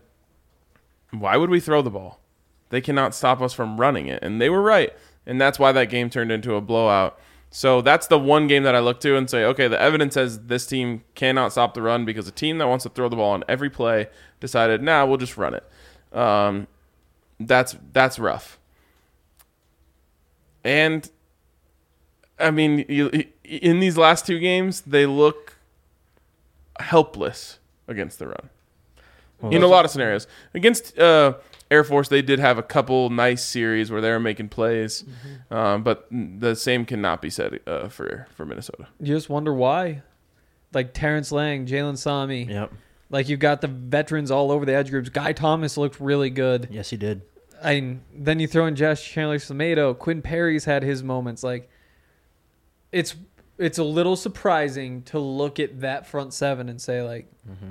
why would we throw the ball? They cannot stop us from running it. And they were right. And that's why that game turned into a blowout. So that's the one game that I look to and say, okay, the evidence says this team cannot stop the run because a team that wants to throw the ball on every play decided, nah, we'll just run it. Um, that's that's rough. And, I mean, you, in these last two games, they look helpless against the run. Well, in a lot of scenarios. Against uh, Air Force, they did have a couple nice series where they were making plays, Mm-hmm. um, but the same cannot be said uh, for, for Minnesota. You just wonder why. Like Terrence Lang, Jalen Sami. Yep. Like, you've got the veterans all over the edge groups. Guy Thomas looked really good. Yes, he did. I mean, then you throw in Josh Chandler-Tomato. Quinn Perry's had his moments. Like, it's it's a little surprising to look at that front seven and say, like,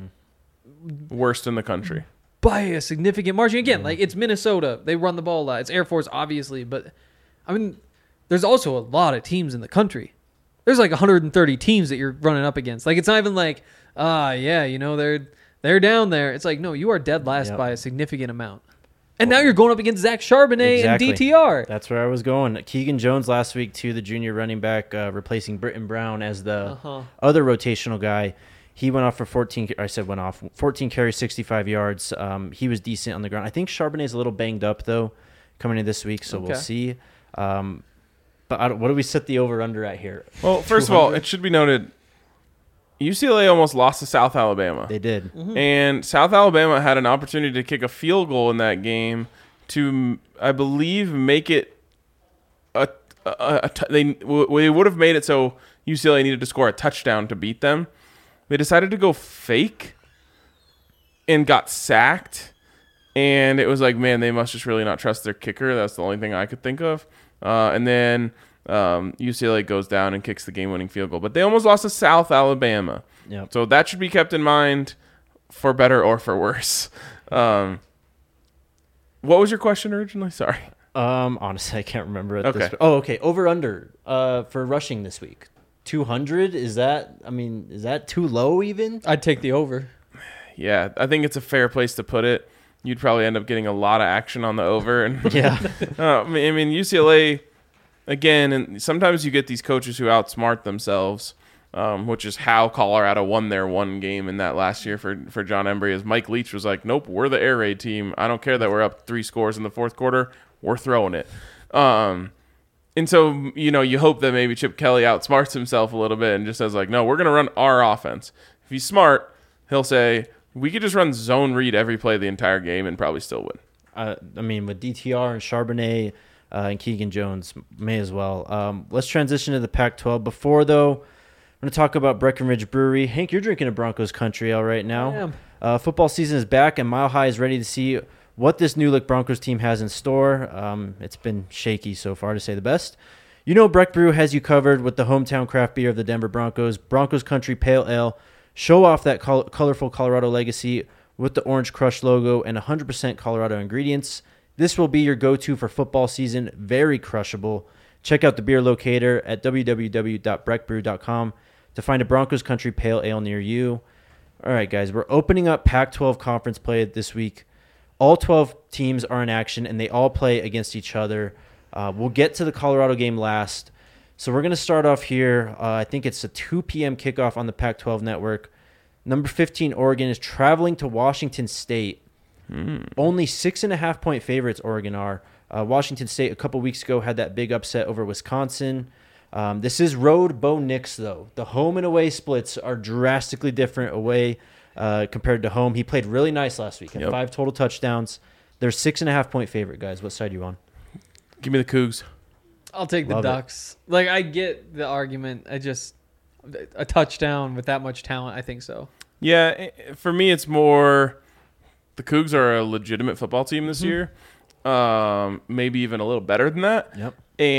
Worst in the country. by a significant margin. Again, like, it's Minnesota. They run the ball a lot. It's Air Force, obviously. But, I mean, there's also a lot of teams in the country. There's like one hundred thirty teams that you're running up against. Like, it's not even like, ah, yeah, you know, they're they're down there. It's like, no, you are dead last Yep. by a significant amount. And now you're going up against Zach Charbonnet Exactly. and D T R. That's where I was going. Keegan Jones last week, too, the junior running back, uh, replacing Britton Brown as the Uh-huh. other rotational guy. He went off for fourteen. I said went off fourteen carries, sixty-five yards. Um, he was decent on the ground. I think Charbonnet's a little banged up though, coming in this week, so Okay. we'll see. Um, but I don't, what do we set the over under at here? Well, first of all, two hundred? it should be noted, U C L A almost lost to South Alabama. They did. Mm-hmm. And South Alabama had an opportunity to kick a field goal in that game to, I believe, make it a, a, a, a t- they w- they would have made it so U C L A needed to score a touchdown to beat them. They decided to go fake and got sacked. And it was like, man, they must just really not trust their kicker. That's the only thing I could think of. Uh, and then um, U C L A goes down and kicks the game-winning field goal. But they almost lost to South Alabama. Yep. So that should be kept in mind for better or for worse. Um, what was your question originally? Sorry. Um, honestly, I can't remember it. Okay. This, oh, okay. Over under uh, for rushing this week. two hundred? Is that, I mean, is that too low even? I'd take the over. Yeah, I think it's a fair place to put it. You'd probably end up getting a lot of action on the over. And Yeah. uh, I mean, U C L A, again, and sometimes you get these coaches who outsmart themselves, um, which is how Colorado won their one game in that last year for, for John Embry. As Mike Leach was like, nope, we're the air raid team. I don't care that we're up three scores in the fourth quarter. We're throwing it. Um, and so, you know, you hope that maybe Chip Kelly outsmarts himself a little bit and just says, like, no, we're going to run our offense. If he's smart, he'll say, we could just run zone read every play the entire game and probably still win. Uh, I mean, with D T R and Charbonnet uh, and Keegan Jones, may as well. Um, let's transition to the Pac twelve. Before, though, I'm going to talk about Breckenridge Brewery. Hank, you're drinking a Broncos country ale right now. I am. Uh, football season is back, and Mile High is ready to see what this new look Broncos team has in store. Um, it's been shaky so far, to say the best. You know Breck Brew has you covered with the hometown craft beer of the Denver Broncos, Broncos Country Pale Ale. Show off that col- colorful Colorado legacy with the Orange Crush logo and one hundred percent Colorado ingredients. This will be your go-to for football season. Very crushable. Check out the beer locator at w w w dot breck brew dot com to find a Broncos Country Pale Ale near you. All right, guys, we're opening up Pac twelve conference play this week. All twelve teams are in action, and they all play against each other. Uh, we'll get to the Colorado game last. So we're going to start off here. Uh, I think it's a two p.m. kickoff on the Pac twelve network. Number fifteen, Oregon, is traveling to Washington State. Mm. Only six and a half point favorites, Oregon are. Uh, Washington State a couple weeks ago had that big upset over Wisconsin. Um, this is road Bo Nix, though. The home and away splits are drastically different away uh, compared to home. He played really nice last week. Had Yep. five total touchdowns. They're six and a half point favorite, guys. What side are you on? Give me the Cougs. I'll take the Love it. Ducks. Like, I get the argument. I just a touchdown with that much talent. I think so. Yeah, i- for me, it's more the Cougs are a legitimate football team this year. Um, maybe even a little better than that. Yep.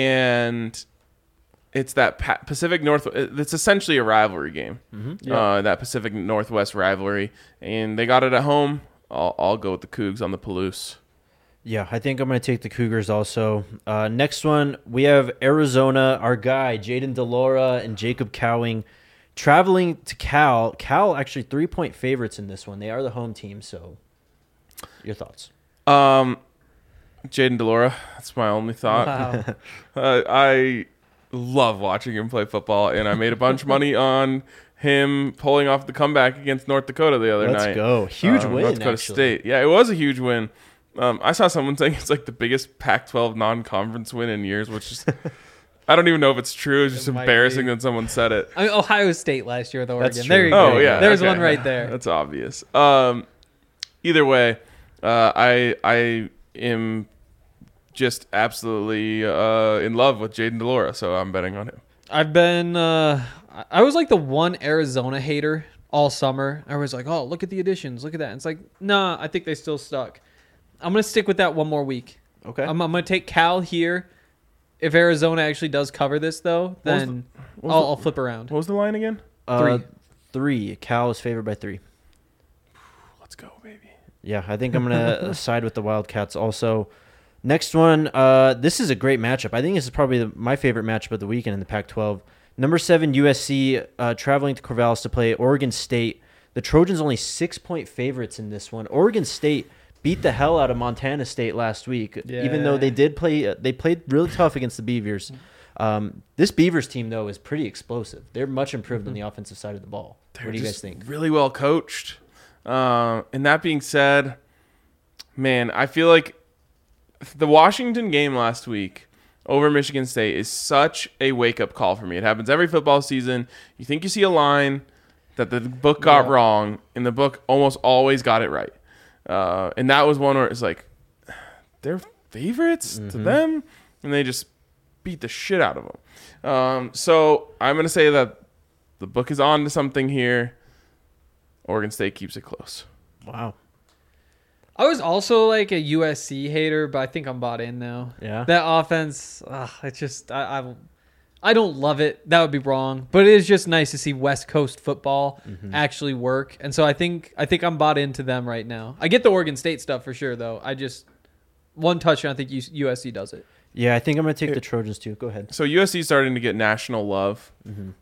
And it's that Pa- Pacific North. It's essentially a rivalry game. Mm-hmm. Uh, that Pacific Northwest rivalry, and they got it at home. I'll, I'll go with the Cougs on the Palouse. Yeah, I think I'm going to take the Cougars also. Uh, next one, we have Arizona, our guy, Jaden Delora and Jacob Cowing, traveling to Cal. Cal actually three-point favorites in this one. They are the home team, so your thoughts? Um, Jaden Delora. That's my only thought. Wow. Uh, I love watching him play football, and I made a bunch of money on him pulling off the comeback against North Dakota the other Let's night. go. Huge Um, win, North Dakota actually. State. Yeah, it was a huge win. Um, I saw someone saying it's like the biggest Pac twelve non-conference win in years, which is I don't even know if it's true. It's just It might embarrassing be. that someone said it. I mean, Ohio State last year with Oregon. That's There true. you Oh go. yeah, There's okay. one right there. That's obvious. Um, either way, uh, I I am just absolutely uh, in love with Jaden Delora, so I'm betting on him. I've been. Uh, I was like the one Arizona hater all summer. I was like, oh, look at the additions, look at that. And it's like, nah, I think they still stuck. I'm gonna stick with that one more week. Okay. I'm, I'm gonna take Cal here. If Arizona actually does cover this, though, was then what was I'll, the- I'll flip around. What was the line again? Uh, Three. Three. Cal is favored by three. Let's go, baby. Yeah, I think I'm going to side with the Wildcats also. Next one, uh, this is a great matchup. I think this is probably the, my favorite matchup of the weekend in the Pac twelve. Number seven, U S C, uh, traveling to Corvallis to play Oregon State. The Trojans only six-point favorites in this one. Oregon State beat the hell out of Montana State last week, even though Yeah. they did play. Uh, they played really tough against the Beavers. Um, this Beavers team, though, is pretty explosive. They're much improved on the offensive side of the ball. They're what do you guys just think? Really well coached. Uh, and that being said, man, I feel like the Washington game last week over Michigan State is such a wake-up call for me. It happens every football season. You think you see a line that the book got Yeah. wrong, and the book almost always got it right. Uh, and that was one where it's like, they're favorites to them, and they just beat the shit out of them. Um, so I'm going to say that the book is on to something here. Oregon State keeps it close. Wow. I was also like a U S C hater, but I think I'm bought in now. Yeah. That offense, ugh, it's just I, I I don't love it. That would be wrong, but it is just nice to see West Coast football actually work. And so I think I think I'm bought into them right now. I get the Oregon State stuff for sure, though. I just one touchdown. I think U- USC does it. Yeah, I think I'm going to take the Trojans, too. Go ahead. So U S C is starting to get national love,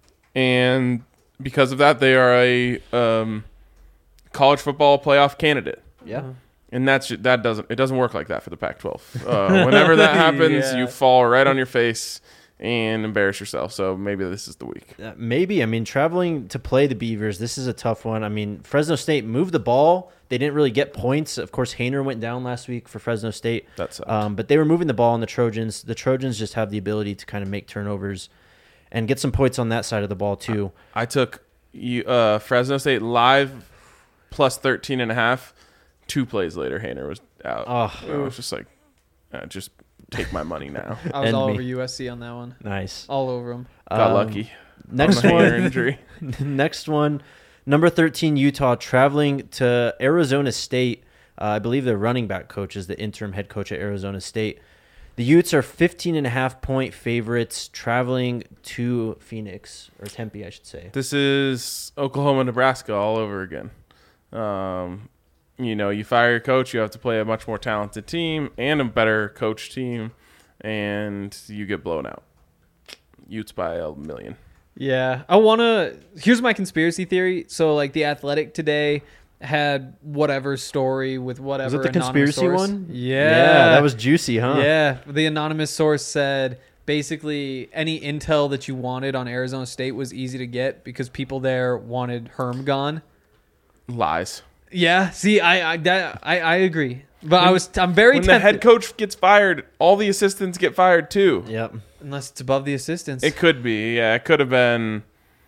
and because of that, they are a um, college football playoff candidate. Yeah. And that's that doesn't it doesn't work like that for the Pac twelve. Uh, whenever that happens, Yeah. you fall right on your face and embarrass yourself. So maybe this is the week. Uh, maybe. I mean, traveling to play the Beavers, this is a tough one. I mean, Fresno State moved the ball. They didn't really get points. Of course, Hainer went down last week for Fresno State. That sucks. Um, but they were moving the ball on the Trojans. The Trojans just have the ability to kind of make turnovers and get some points on that side of the ball too. I took you uh, Fresno State live plus thirteen and a half. Two plays later, Hainer was out. Oh. I was just like, uh, just take my money now. I was End all me. over U S C on that one. Nice. All over them. Got Um, lucky. Next on the Hainer one. injury. Next one. Number thirteen, Utah, traveling to Arizona State. Uh, I believe their running back coach is the interim head coach at Arizona State. The Utes are fifteen and a half point favorites traveling to Phoenix, or Tempe, I should say. This is Oklahoma, Nebraska all over again. Um, you know, you fire your coach, you have to play a much more talented team and a better coach team, and you get blown out. Utes by a million. Yeah, I want to. Here's my conspiracy theory. So, like, The Athletic today had whatever story with whatever. Was it the anonymous conspiracy source. one? Yeah, that was juicy, huh? Yeah, the anonymous source said basically any intel that you wanted on Arizona State was easy to get because people there wanted Herm gone. Lies. Yeah, see, I I that, I, I agree, but I was I'm very When the tempted. head coach gets fired, all the assistants get fired too. Yep. Unless it's above the assistants. It could be. Yeah, it could have been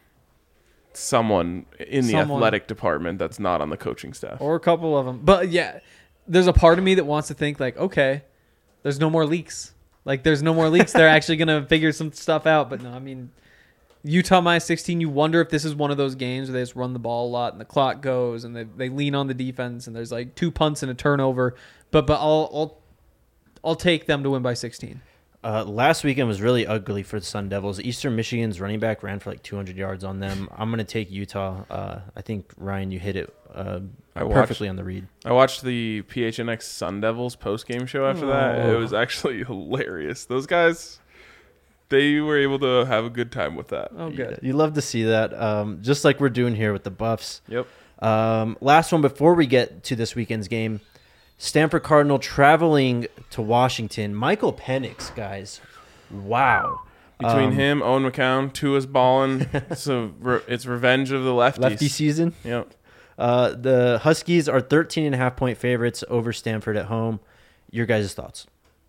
someone in the Someone. athletic department that's not on the coaching staff. or a couple of them. But yeah, there's a part of me that wants to think like, okay, there's no more leaks. Like there's no more leaks. They're actually gonna figure some stuff out. But no, I mean, Utah minus sixteen. You wonder if this is one of those games where they just run the ball a lot and the clock goes and they, they lean on the defense and there's like two punts and a turnover. But but I'll I'll I'll take them to win by sixteen. Uh, last weekend was really ugly for the Sun Devils. Eastern Michigan's running back ran for like two hundred yards on them. I'm going to take Utah. Uh, I think, Ryan, you hit it uh, I watched- perfectly on the read. I watched the P H N X Sun Devils post-game show after that. Oh. It was actually hilarious. Those guys, they were able to have a good time with that. Oh, good. Yeah, you love to see that, um, just like we're doing here with the Buffs. Yep. Um, last one before we get to this weekend's game. Stanford Cardinal traveling to Washington. Michael Penix, guys. Wow. Between Um, him, Owen McCown, Tua's balling. So re- it's revenge of the lefties. Lefty season. Yep. Uh, the Huskies are thirteen and a half point favorites over Stanford at home. Your guys' thoughts?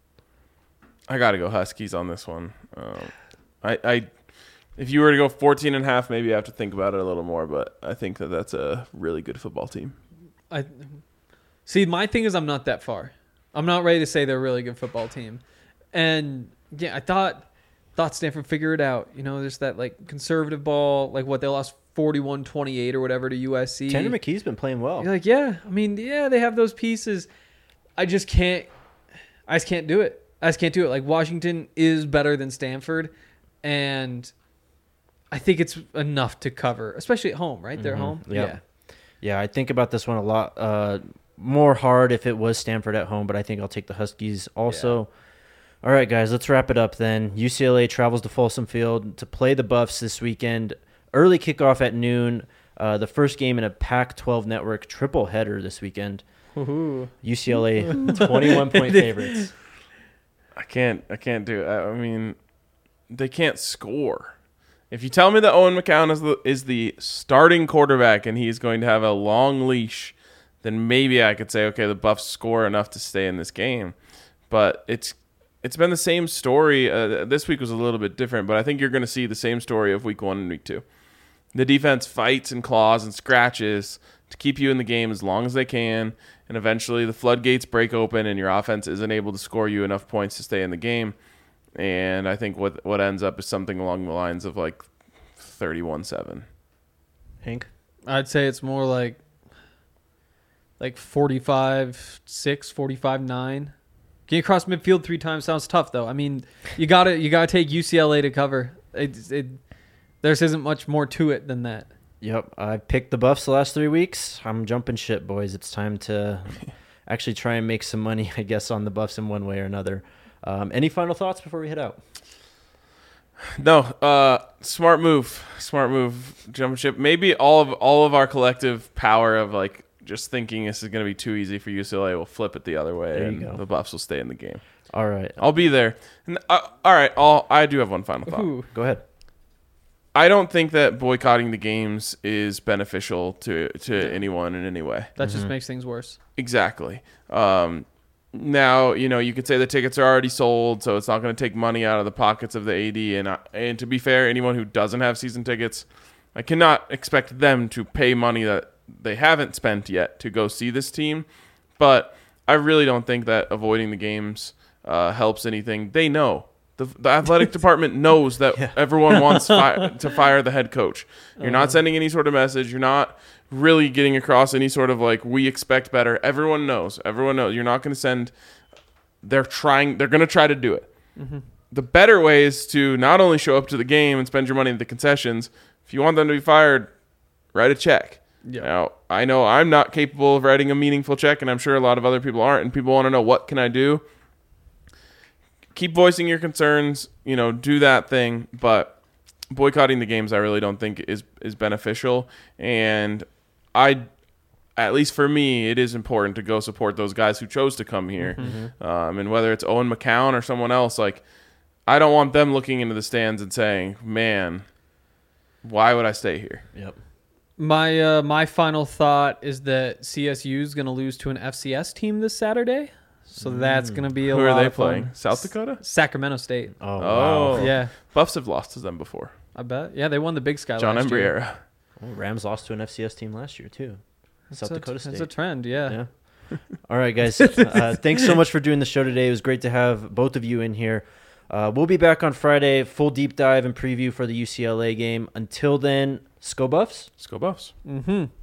I got to go Huskies on this one. Um, I, I, if you were to go fourteen and a half, maybe I have to think about it a little more, but I think that that's a really good football team. I see. My thing is, I'm not that far. I'm not ready to say they're a really good football team. And yeah, I thought thought Stanford figured it out. You know, there's that like conservative ball, like what they lost forty-one twenty-eight or whatever to U S C. Tanner McKee's been playing well. You're like, yeah. I mean, yeah, they have those pieces. I just can't. I just can't do it. I just can't do it. Like Washington is better than Stanford, and I think it's enough to cover, especially at home. Right, they're Mhm. home. Yep. Yeah. Yeah, I think about this one a lot uh, more hard if it was Stanford at home, but I think I'll take the Huskies also. All right, guys, let's wrap it up then. U C L A travels to Folsom Field to play the Buffs this weekend. Early kickoff at noon. Uh, the first game in a Pac twelve network triple header this weekend. Ooh. U C L A twenty-one point favorites. I can't. I can't do it. I I mean, they can't score. If you tell me that Owen McCown is the is the starting quarterback and he's going to have a long leash, then maybe I could say, okay, the Buffs score enough to stay in this game. But it's it's been the same story. Uh, this week was a little bit different, but I think you're going to see the same story of week one and week two. The defense fights and claws and scratches to keep you in the game as long as they can, and eventually the floodgates break open and your offense isn't able to score you enough points to stay in the game. And I think what what ends up is something along the lines of like thirty-one seven. Hank? I'd say it's more like like forty-five six, forty-five nine. Getting across midfield three times sounds tough, though. I mean, you got to you got to take U C L A to cover. It, it, there isn't much more to it than that. Yep, I picked the Buffs the last three weeks. I'm jumping ship, boys. It's time to actually try and make some money, I guess, on the Buffs in one way or another. Um, any final thoughts before we head out? No, uh, smart move, smart move, jumping ship. Maybe all of all of our collective power of like just thinking this is going to be too easy for U C L A will flip it the other way, There you and go. the Buffs will stay in the game. All right. I'll be there. And, uh, all right, I'll, I do have one final thought. Ooh. Go ahead. I don't think that boycotting the games is beneficial to to anyone in any way. That Mm-hmm. just makes things worse. Exactly. Um, now, you know, you could say the tickets are already sold, so it's not going to take money out of the pockets of the A D. And, I, and to be fair, anyone who doesn't have season tickets, I cannot expect them to pay money that they haven't spent yet to go see this team. But I really don't think that avoiding the games uh, helps anything. They know. The, the athletic department knows that Yeah. everyone wants fi- to fire the head coach. You're not sending any sort of message. You're not really getting across any sort of like, we expect better. Everyone knows. Everyone knows. You're not going to send. They're trying. They're going to try to do it. Mm-hmm. The better way is to not only show up to the game and spend your money at the concessions. If you want them to be fired, write a check. Yeah. Now, I know I'm not capable of writing a meaningful check, and I'm sure a lot of other people aren't, and people want to know, what can I do? Keep voicing your concerns, you know, do that thing, but boycotting the games I really don't think is is beneficial. And I, at least for me, it is important to go support those guys who chose to come here. Mm-hmm. Um, and whether it's Owen McCown or someone else, like, I don't want them looking into the stands and saying, man, why would I stay here? Yep. My uh, my final thought is that C S U is going to lose to an F C S team this Saturday, so that's going to be a Who lot are they of fun. playing? South Dakota? Sacramento State. Oh, Oh. wow. Yeah, Buffs have lost to them before. I bet. Yeah, they won the Big Sky John last year. Embriera. Well, Rams lost to an F C S team last year, too. South It's a- Dakota State. It's a trend, yeah. Yeah. All right, guys. Uh, thanks so much for doing the show today. It was great to have both of you in here. Uh, we'll be back on Friday, full deep dive and preview for the U C L A game. Until then, Sco Buffs. Let's go Buffs. Mm-hmm.